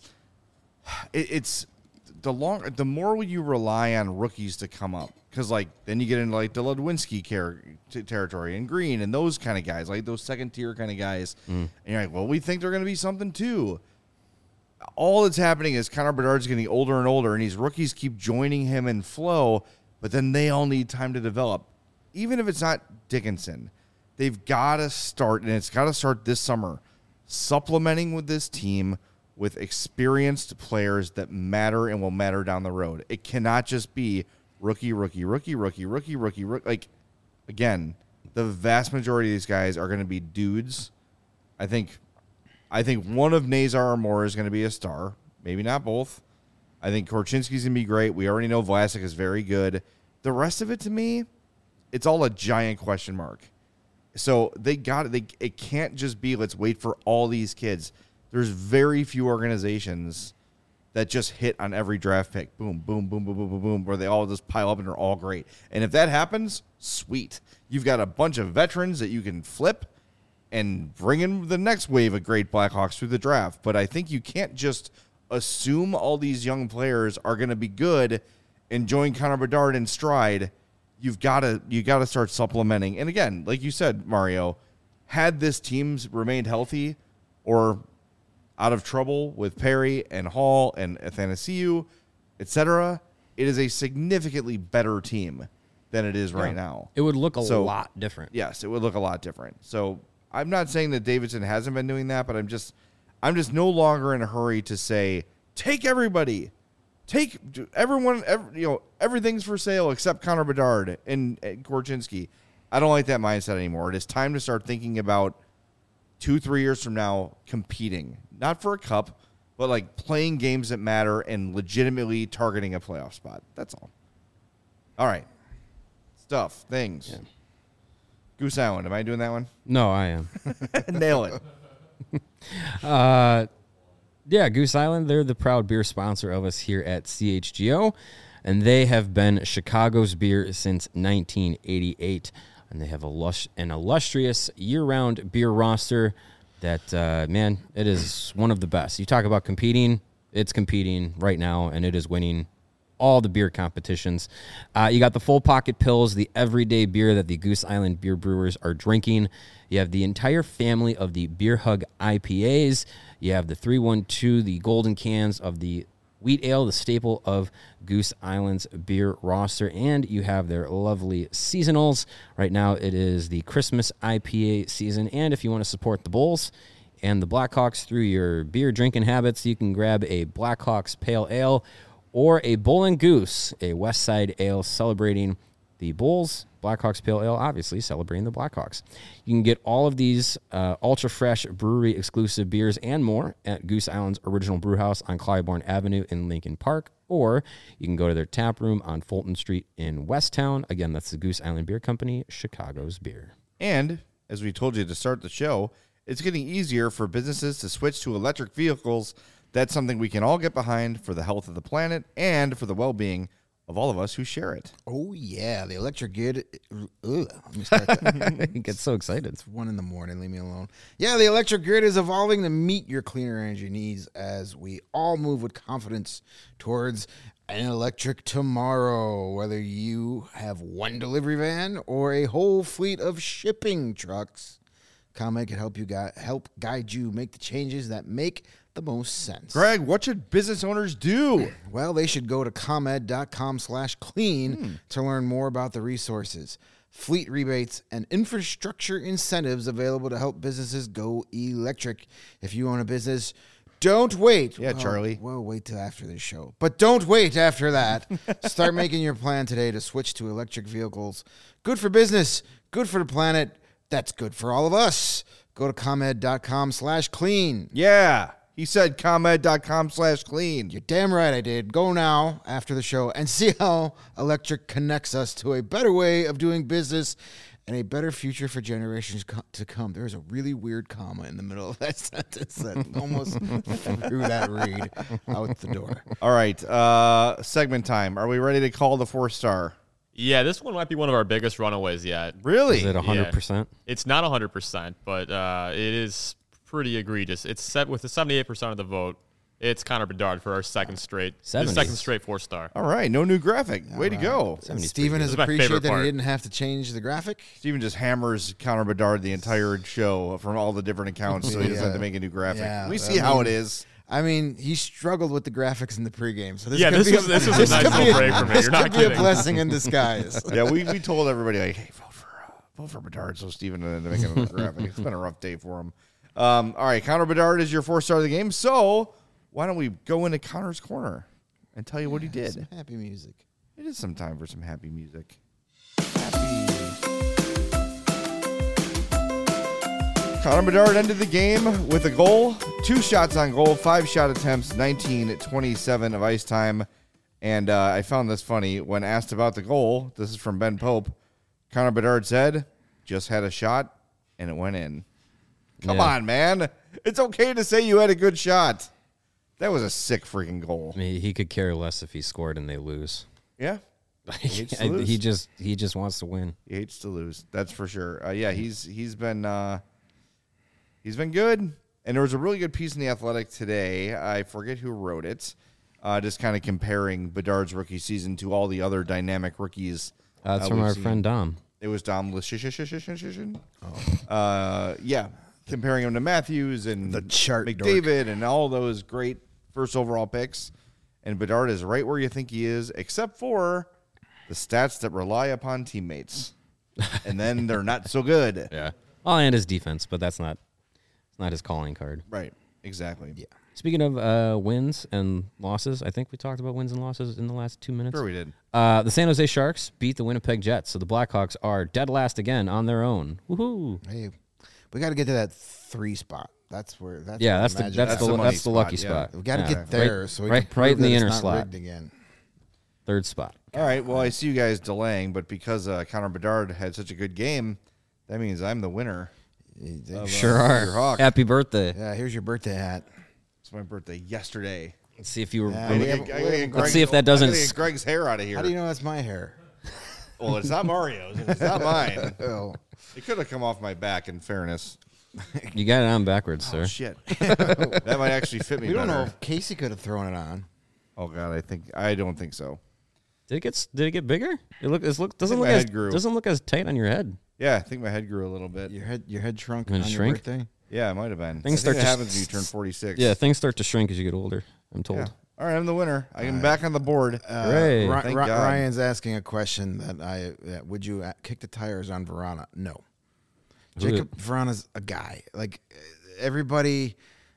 it's the more you rely on rookies to come up, because like then you get into like the Ludwinski territory and Green and those kind of guys, like those second tier kind of guys, and you're like, well, we think they're going to be something too. all that's happening is Connor Bedard's getting older and older, and these rookies keep joining him in flow, but then they all need time to develop. Even if it's not Dickinson, they've got to start, and it's got to start this summer, supplementing with this team with experienced players that matter and will matter down the road. It cannot just be rookie. Like, again, the vast majority of these guys are going to be dudes. I think one of Nazar or more is going to be a star. Maybe not both. I think Korchinski's going to be great. We already know Vlasic is very good. The rest of it, to me, it's all a giant question mark. So it can't just be let's wait for all these kids. There's very few organizations that just hit on every draft pick. Boom, boom, boom, boom, boom, boom, boom, where they all just pile up and they're all great. And if that happens, sweet. You've got a bunch of veterans that you can flip and bring in the next wave of great Blackhawks through the draft. But I think you can't just assume all these young players are going to be good and join Connor Bedard in stride. You got to start supplementing. And again, like you said, Mario, had this team's remained healthy or out of trouble with Perry and Hall and Athanasiou, etc., it is a significantly better team than it is right now. It would look a lot different. Yes, it would look a lot different. So I'm not saying that Davidson hasn't been doing that, but I'm just no longer in a hurry to say, take everybody. Take everyone, everything's for sale except Connor Bedard and Korchinski. I don't like that mindset anymore. It is time to start thinking about 2-3 years from now competing, not for a cup, but like playing games that matter and legitimately targeting a playoff spot. That's all. All right. Things. Yeah. Goose Island. Am I doing that one? No, I am. Nail it. Yeah, Goose Island, they're the proud beer sponsor of us here at CHGO, and they have been Chicago's beer since 1988, and they have an illustrious year-round beer roster that, man, it is one of the best. You talk about competing, it's competing right now, and it is winning all the beer competitions. You got the Full Pocket Pills, the everyday beer that the Goose Island beer brewers are drinking. You have the entire family of the Beer Hug IPAs. You have the 312, the golden cans of the wheat ale, the staple of Goose Island's beer roster. And you have their lovely seasonals. Right now it is the Christmas IPA season. And if you want to support the Bulls and the Blackhawks through your beer drinking habits, you can grab a Blackhawks Pale Ale or a Bull and Goose, a West Side Ale celebrating the Bulls, Blackhawks Pale Ale, obviously celebrating the Blackhawks. You can get all of these ultra-fresh brewery-exclusive beers and more at Goose Island's Original Brewhouse on Clybourne Avenue in Lincoln Park, or you can go to their tap room on Fulton Street in Westtown. Again, that's the Goose Island Beer Company, Chicago's beer. And, as we told you to start the show, it's getting easier for businesses to switch to electric vehicles. That's something we can all get behind for the health of the planet and for the well-being of all of us who share it. Oh, yeah. The electric grid. Let me start that. You get so excited. It's 1 a.m. Leave me alone. Yeah, the electric grid is evolving to meet your cleaner energy needs as we all move with confidence towards an electric tomorrow. Whether you have one delivery van or a whole fleet of shipping trucks, ComEd can help guide you make the changes that make the most sense. Greg, what should business owners do? Well, they should go to ComEd.com/clean to learn more about the resources, fleet rebates, and infrastructure incentives available to help businesses go electric. If you own a business, don't wait. Yeah, Charlie. Well, wait till after this show. But don't wait after that. Start making your plan today to switch to electric vehicles. Good for business, good for the planet. That's good for all of us. Go to ComEd.com/clean. Yeah. He said ComEd.com/clean. You're damn right I did. Go now after the show and see how electric connects us to a better way of doing business and a better future for generations to come. There's a really weird comma in the middle of that sentence that almost threw that read out the door. All right. Segment time. Are we ready to call the 4-star? Yeah, this one might be one of our biggest runaways yet. Really? Is it 100%? Yeah. It's not 100%, but it is pretty egregious. It's set with the 78% of the vote. It's Connor Bedard for our second straight 4-star. All right, no new graphic. Way to go. Steven has appreciated that he didn't have to change the graphic. Steven just hammers Connor Bedard the entire show from all the different accounts, so he doesn't have to make a new graphic. Yeah, we see how it is. I mean, he struggled with the graphics in the pregame. So this was a nice little break for me. You're not kidding. Be a blessing in disguise. Yeah, we told everybody, like, hey, vote for Bedard so Steven didn't make it graphic. It's been a rough day for him. All right, Connor Bedard is your 4-star of the game. So why don't we go into Connor's Corner and tell you what he did? Some happy music. It is some time for some happy music. Connor Bedard ended the game with a goal, 2 shots on goal, 5 shot attempts, 19-27 of ice time. And I found this funny. When asked about the goal, this is from Ben Pope, Connor Bedard said, just had a shot, and it went in. Come on, man. It's okay to say you had a good shot. That was a sick freaking goal. I mean, he could care less if he scored and they lose. Yeah. He just wants to win. He hates to lose. That's for sure. Yeah, he's been good. And there was a really good piece in The Athletic today. I forget who wrote it. Just kind of comparing Bedard's rookie season to all the other dynamic rookies. That's from our friend Dom. It was Dom yeah, comparing him to Matthews and the chart McDavid and all those great first overall picks. And Bedard is right where you think he is, except for the stats that rely upon teammates. And then they're not so good. Yeah. Well, and his defense, but that's not his calling card. Right. Exactly. Yeah. Speaking of wins and losses, I think we talked about wins and losses in the last 2 minutes. Sure we did. The San Jose Sharks beat the Winnipeg Jets, so the Blackhawks are dead last again on their own. Woohoo! Hey, we got to get to that 3 spot. That's where. That's the lucky spot. We got to get there, so we right in the inner slot again. 3rd spot. All right. Well, I see you guys delaying, but because Connor Bedard had such a good game, that means I'm the winner. Sure are. Happy birthday! Yeah, here's your birthday hat. It's my birthday yesterday. Let's see if you were. Let's see if that doesn't. Get Greg's hair out of here. How do you know that's my hair? Well, it's not Mario's. It's not mine. Oh. It could have come off my back. In fairness, you got it on backwards, sir. Shit, that might actually fit me. We don't better. know if Casey could have thrown it on. Oh God, I don't think so. Did it get bigger? Doesn't look as tight on your head. Yeah, I think my head grew a little bit. Your head shrunk on your birthday? Yeah, it might have been. Things I think that happens when you turn 46. Yeah, things start to shrink as you get older, I'm told. Yeah. All right, I'm the winner. I am back on the board. Hooray. Ryan's asking a question that would you kick the tires on Vrana? No. Jacob Vrana's a guy. Like, everybody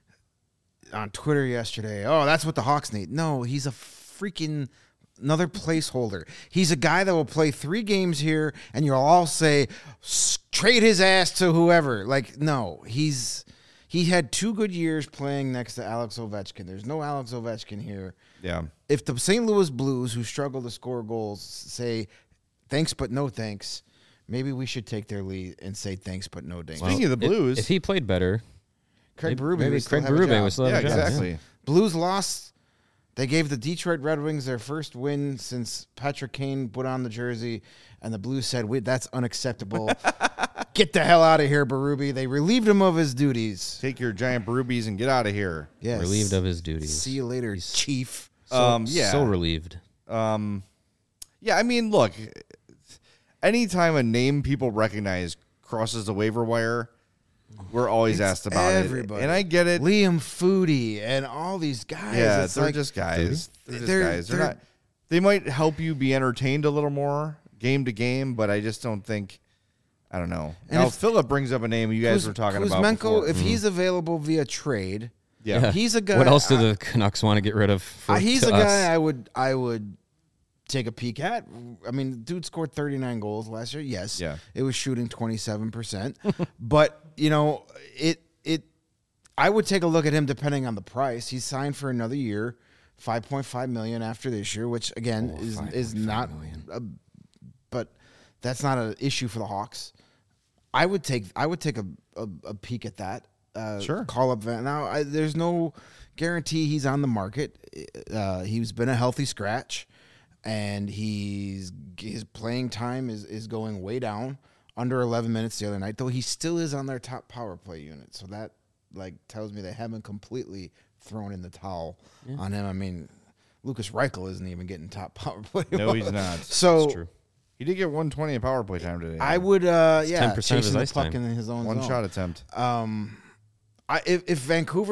on Twitter yesterday, oh, that's what the Hawks need. No, he's a freaking another placeholder. He's a guy that will play 3 games here, and you'll all say, trade his ass to whoever. Like, no, he had 2 good years playing next to Alex Ovechkin. There's no Alex Ovechkin here. Yeah. If the St. Louis Blues, who struggle to score goals, say thanks but no thanks, maybe we should take their lead and say thanks but no thanks. Speaking of the Blues, if he played better, Craig Berube would still have a job. Exactly. Blues lost. They gave the Detroit Red Wings their first win since Patrick Kane put on the jersey, and the Blues said, that's unacceptable. Get the hell out of here, Berube. They relieved him of his duties. Take your giant Berubes and get out of here. Yes. Relieved of his duties. See you later, Chief. So relieved. Yeah, I mean, look, anytime a name people recognize crosses the waiver wire, we're always asked about everybody. It. And I get it. Liam Foodie and all these guys. Yeah, they're just guys. They're not. They might help you be entertained a little more game to game, but I just don't think. I don't know. And now, Philip brings up a name you guys were talking about before. If he's available via trade, yeah, he's a guy. What else do the Canucks want to get rid of? He's a guy I would take a peek at. I mean, the dude scored 39 goals last year. Yes, yeah, it was shooting 27%, but I would take a look at him depending on the price. He's signed for another year, $5.5 million after this year, which again is not. But that's not an issue for the Hawks. I would take a peek at that. Sure. Call up Van. Now there's no guarantee he's on the market. He's been a healthy scratch, and his playing time is going way down. Under 11 minutes the other night, though he still is on their top power play unit. So that tells me they haven't completely thrown in the towel on him. I mean, Lucas Reichel isn't even getting top power play. No, he's not. So that's true. He did get 120 in power play time today. I would, 10% of his the ice puck time. in his own one zone. shot attempt. If Vancouver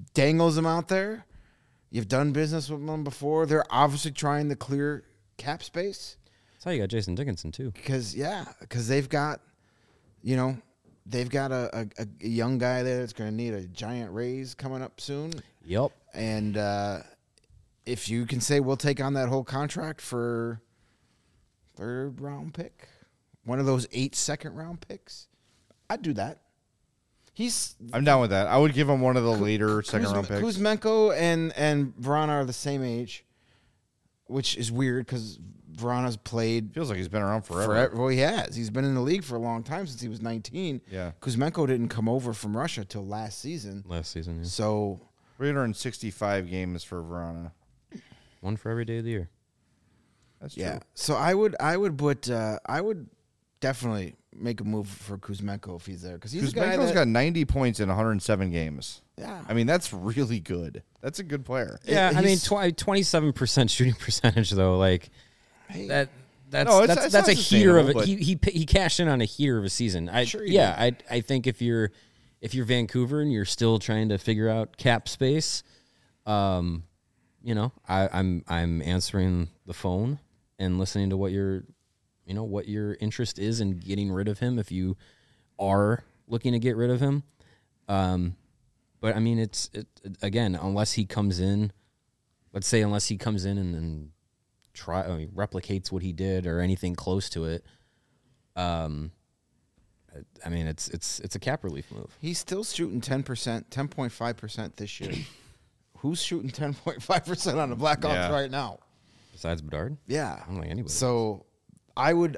dangles them out there. You've done business with them before. They're obviously trying to clear cap space. That's how you got Jason Dickinson too. Because they've got, they've got a young guy there that's going to need a giant raise coming up soon. Yep. And if you can say we'll take on that whole contract for 3rd round pick, one of those 8 second-round picks, I'd do that. I'm down with that. I would give him one of the later second-round picks. Kuzmenko and Vrana are the same age, which is weird because Vrana's played. Feels like he's been around forever. Well, he has. He's been in the league for a long time, since he was 19. Yeah. Kuzmenko didn't come over from Russia till last season. Yeah. So 365 games for Vrana. One for every day of the year. That's true. yeah. So I would definitely make a move for Kuzmenko if he's there, because he's a guy Kuzmenko's that got 90 points in 107 games. Yeah. I mean, that's really good. That's a good player. Yeah, I mean, 27% shooting percentage though, like that's it's that's not a heater of it. sustainable, He cashed in on a heater of a season. I think if you're Vancouver and you're still trying to figure out cap space, I'm answering the phone and listening to what your interest is in getting rid of him if you are looking to get rid of him. But I mean, it's again, unless he comes in and then replicates what he did or anything close to it. I mean, it's a cap relief move. He's still shooting 10%, 10.5% this year. Who's shooting 10.5% on the Blackhawks right now? Besides Bedard? Yeah. I don't think anybody. So I would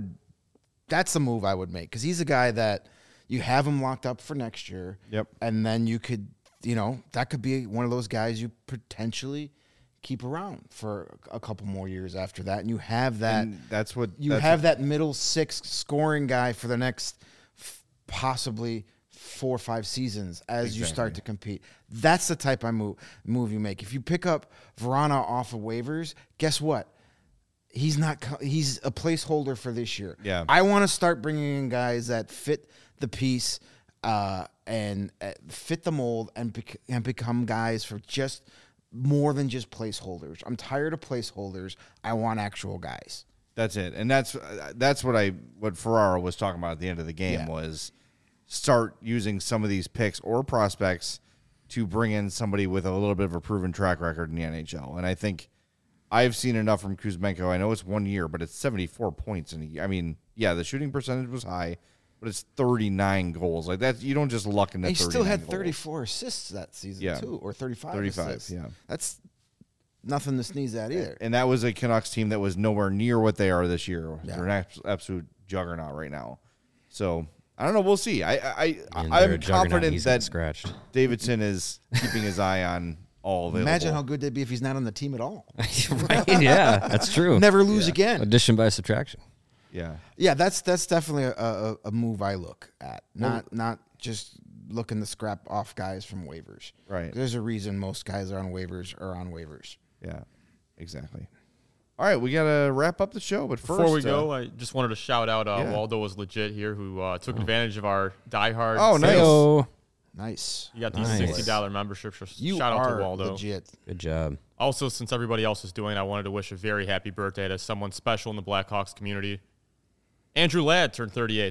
that's the move I would make, because he's a guy that you have him locked up for next year. Yep. And then you could, that could be one of those guys you potentially keep around for a couple more years after that. And you have that. And that's what that middle 6 scoring guy for the next possibly 4 or 5 seasons as you start to compete. That's the type of move you make. If you pick up Vrana off of waivers, guess what? He's a placeholder for this year. Yeah. I want to start bringing in guys that fit the piece and fit the mold and become guys for just more than just placeholders. I'm tired of placeholders. I want actual guys. That's it. And that's what Ferraro was talking about at the end of the game was start using some of these picks or prospects to bring in somebody with a little bit of a proven track record in the NHL. And I think I've seen enough from Kuzmenko. I know it's 1 year, but it's 74 points in a year. I mean, the shooting percentage was high, but it's 39 goals. Like that, you don't just luck into 39 goals. He still had goals. 34 assists that season too, or 35 assists. Yeah. That's nothing to sneeze at either. And that was a Canucks team that was nowhere near what they are this year. Yeah. They're an absolute juggernaut right now. So I don't know. We'll see. I'm confident that Davidson is keeping his eye on all available. Imagine how good they'd be if he's not on the team at all. Right? Yeah, that's true. Never lose again. Addition by subtraction. Yeah. Yeah, that's definitely a move I look at. Not just looking to scrap off guys from waivers. Right. There's a reason most guys are on waivers. Yeah, exactly. All right, we got to wrap up the show, but first... Before we go, I just wanted to shout out Waldo was legit here, who took advantage of our diehard sales. Nice. You got these $60 memberships. Shout out to Waldo. Legit. Good job. Also, since everybody else is doing it, I wanted to wish a very happy birthday to someone special in the Blackhawks community. Andrew Ladd turned 38.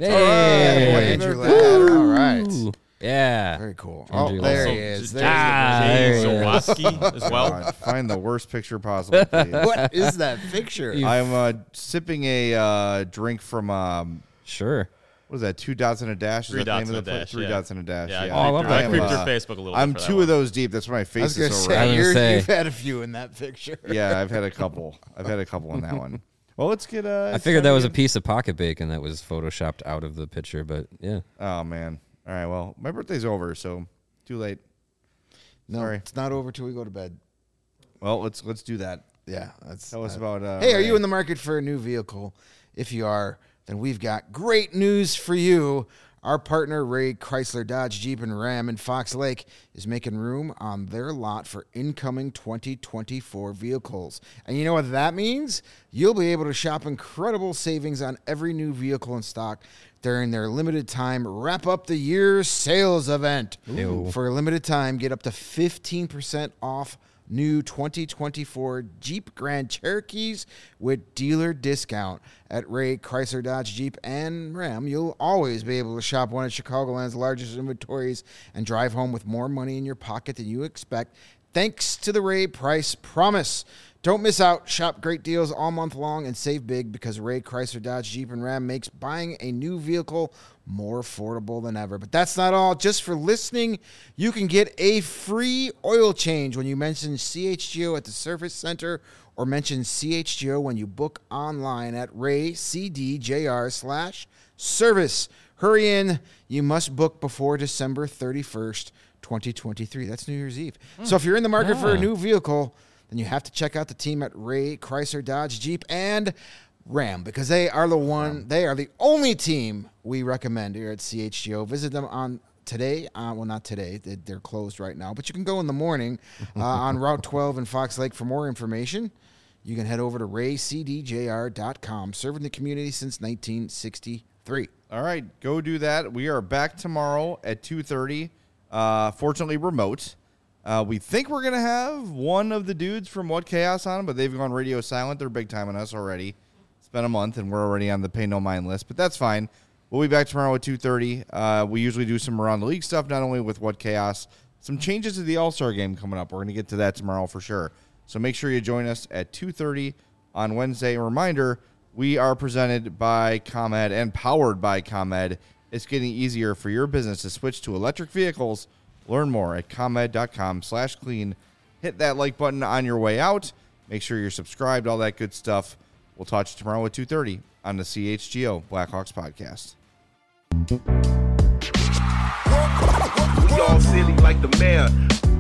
Hey. Andrew Ladd. All right. Yeah. Very cool. Andrew there Ladd. he is. Jay Zawaski as well. God, find the worst picture possible, please. What is that picture? I'm sipping a drink from... Sure. What is that? 2 dots and a dash? Is 3 that the dots name and of the a dash. 3 dots and a dash. Yeah, I creeped your Facebook a little I'm bit for 2 of those deep. That's why my face is so red. You've had a few in that picture. Yeah, I've had a couple. in that one. Well, let's get... I figured that was a piece of pocket bacon that was photoshopped out of the picture, but yeah. Oh, man. All right, well, my birthday's over, so too late. No, Sorry. it's not over till we go to bed. Well, let's do that. Yeah. Tell us about... hey, are you in the market for a new vehicle? If you are, then we've got great news for you. Our partner, Ray Chrysler Dodge Jeep and Ram in Fox Lake, is making room on their lot for incoming 2024 vehicles. And you know what that means? You'll be able to shop incredible savings on every new vehicle in stock during their limited time Wrap Up the Year sales event. For a limited time, get up to 15% off new 2024 Jeep Grand Cherokees with dealer discount. At Ray Chrysler Dodge Jeep and Ram, you'll always be able to shop one of Chicagoland's largest inventories and drive home with more money in your pocket than you expect, thanks to the Ray Price Promise. Don't miss out. Shop great deals all month long and save big, because Ray Chrysler Dodge Jeep and Ram makes buying a new vehicle more affordable than ever. But that's not all. Just for listening, you can get a free oil change when you mention CHGO at the Service Center, or mention CHGO when you book online at raycdjr/service. Hurry in. You must book before December 31st, 2023. That's New Year's Eve. So if you're in the market for a new vehicle, then you have to check out the team at Ray Chrysler Dodge Jeep and Ram, because they are the only team we recommend here at CHGO. Visit them on today. Well, not today. They're closed right now, but you can go in the morning on Route 12 in Fox Lake for more information. You can head over to raycdjr.com, serving the community since 1963. All right, go do that. We are back tomorrow at 2:30. Fortunately, remote. We think we're going to have one of the dudes from What Chaos on, but they've gone radio silent. They're big time on us already. It's been a month, and we're already on the Pay No Mind list, but that's fine. We'll be back tomorrow at 2:30. We usually do some Around the League stuff, not only with What Chaos, some changes to the All-Star game coming up. We're going to get to that tomorrow for sure. So make sure you join us at 2:30 on Wednesday. A reminder, we are presented by ComEd and powered by ComEd. It's getting easier for your business to switch to electric vehicles. Learn more at comed.com/clean. Hit that like button on your way out. Make sure you're subscribed, all that good stuff. We'll talk to you tomorrow at 2:30 on the CHGO Blackhawks podcast. We all silly like the mayor.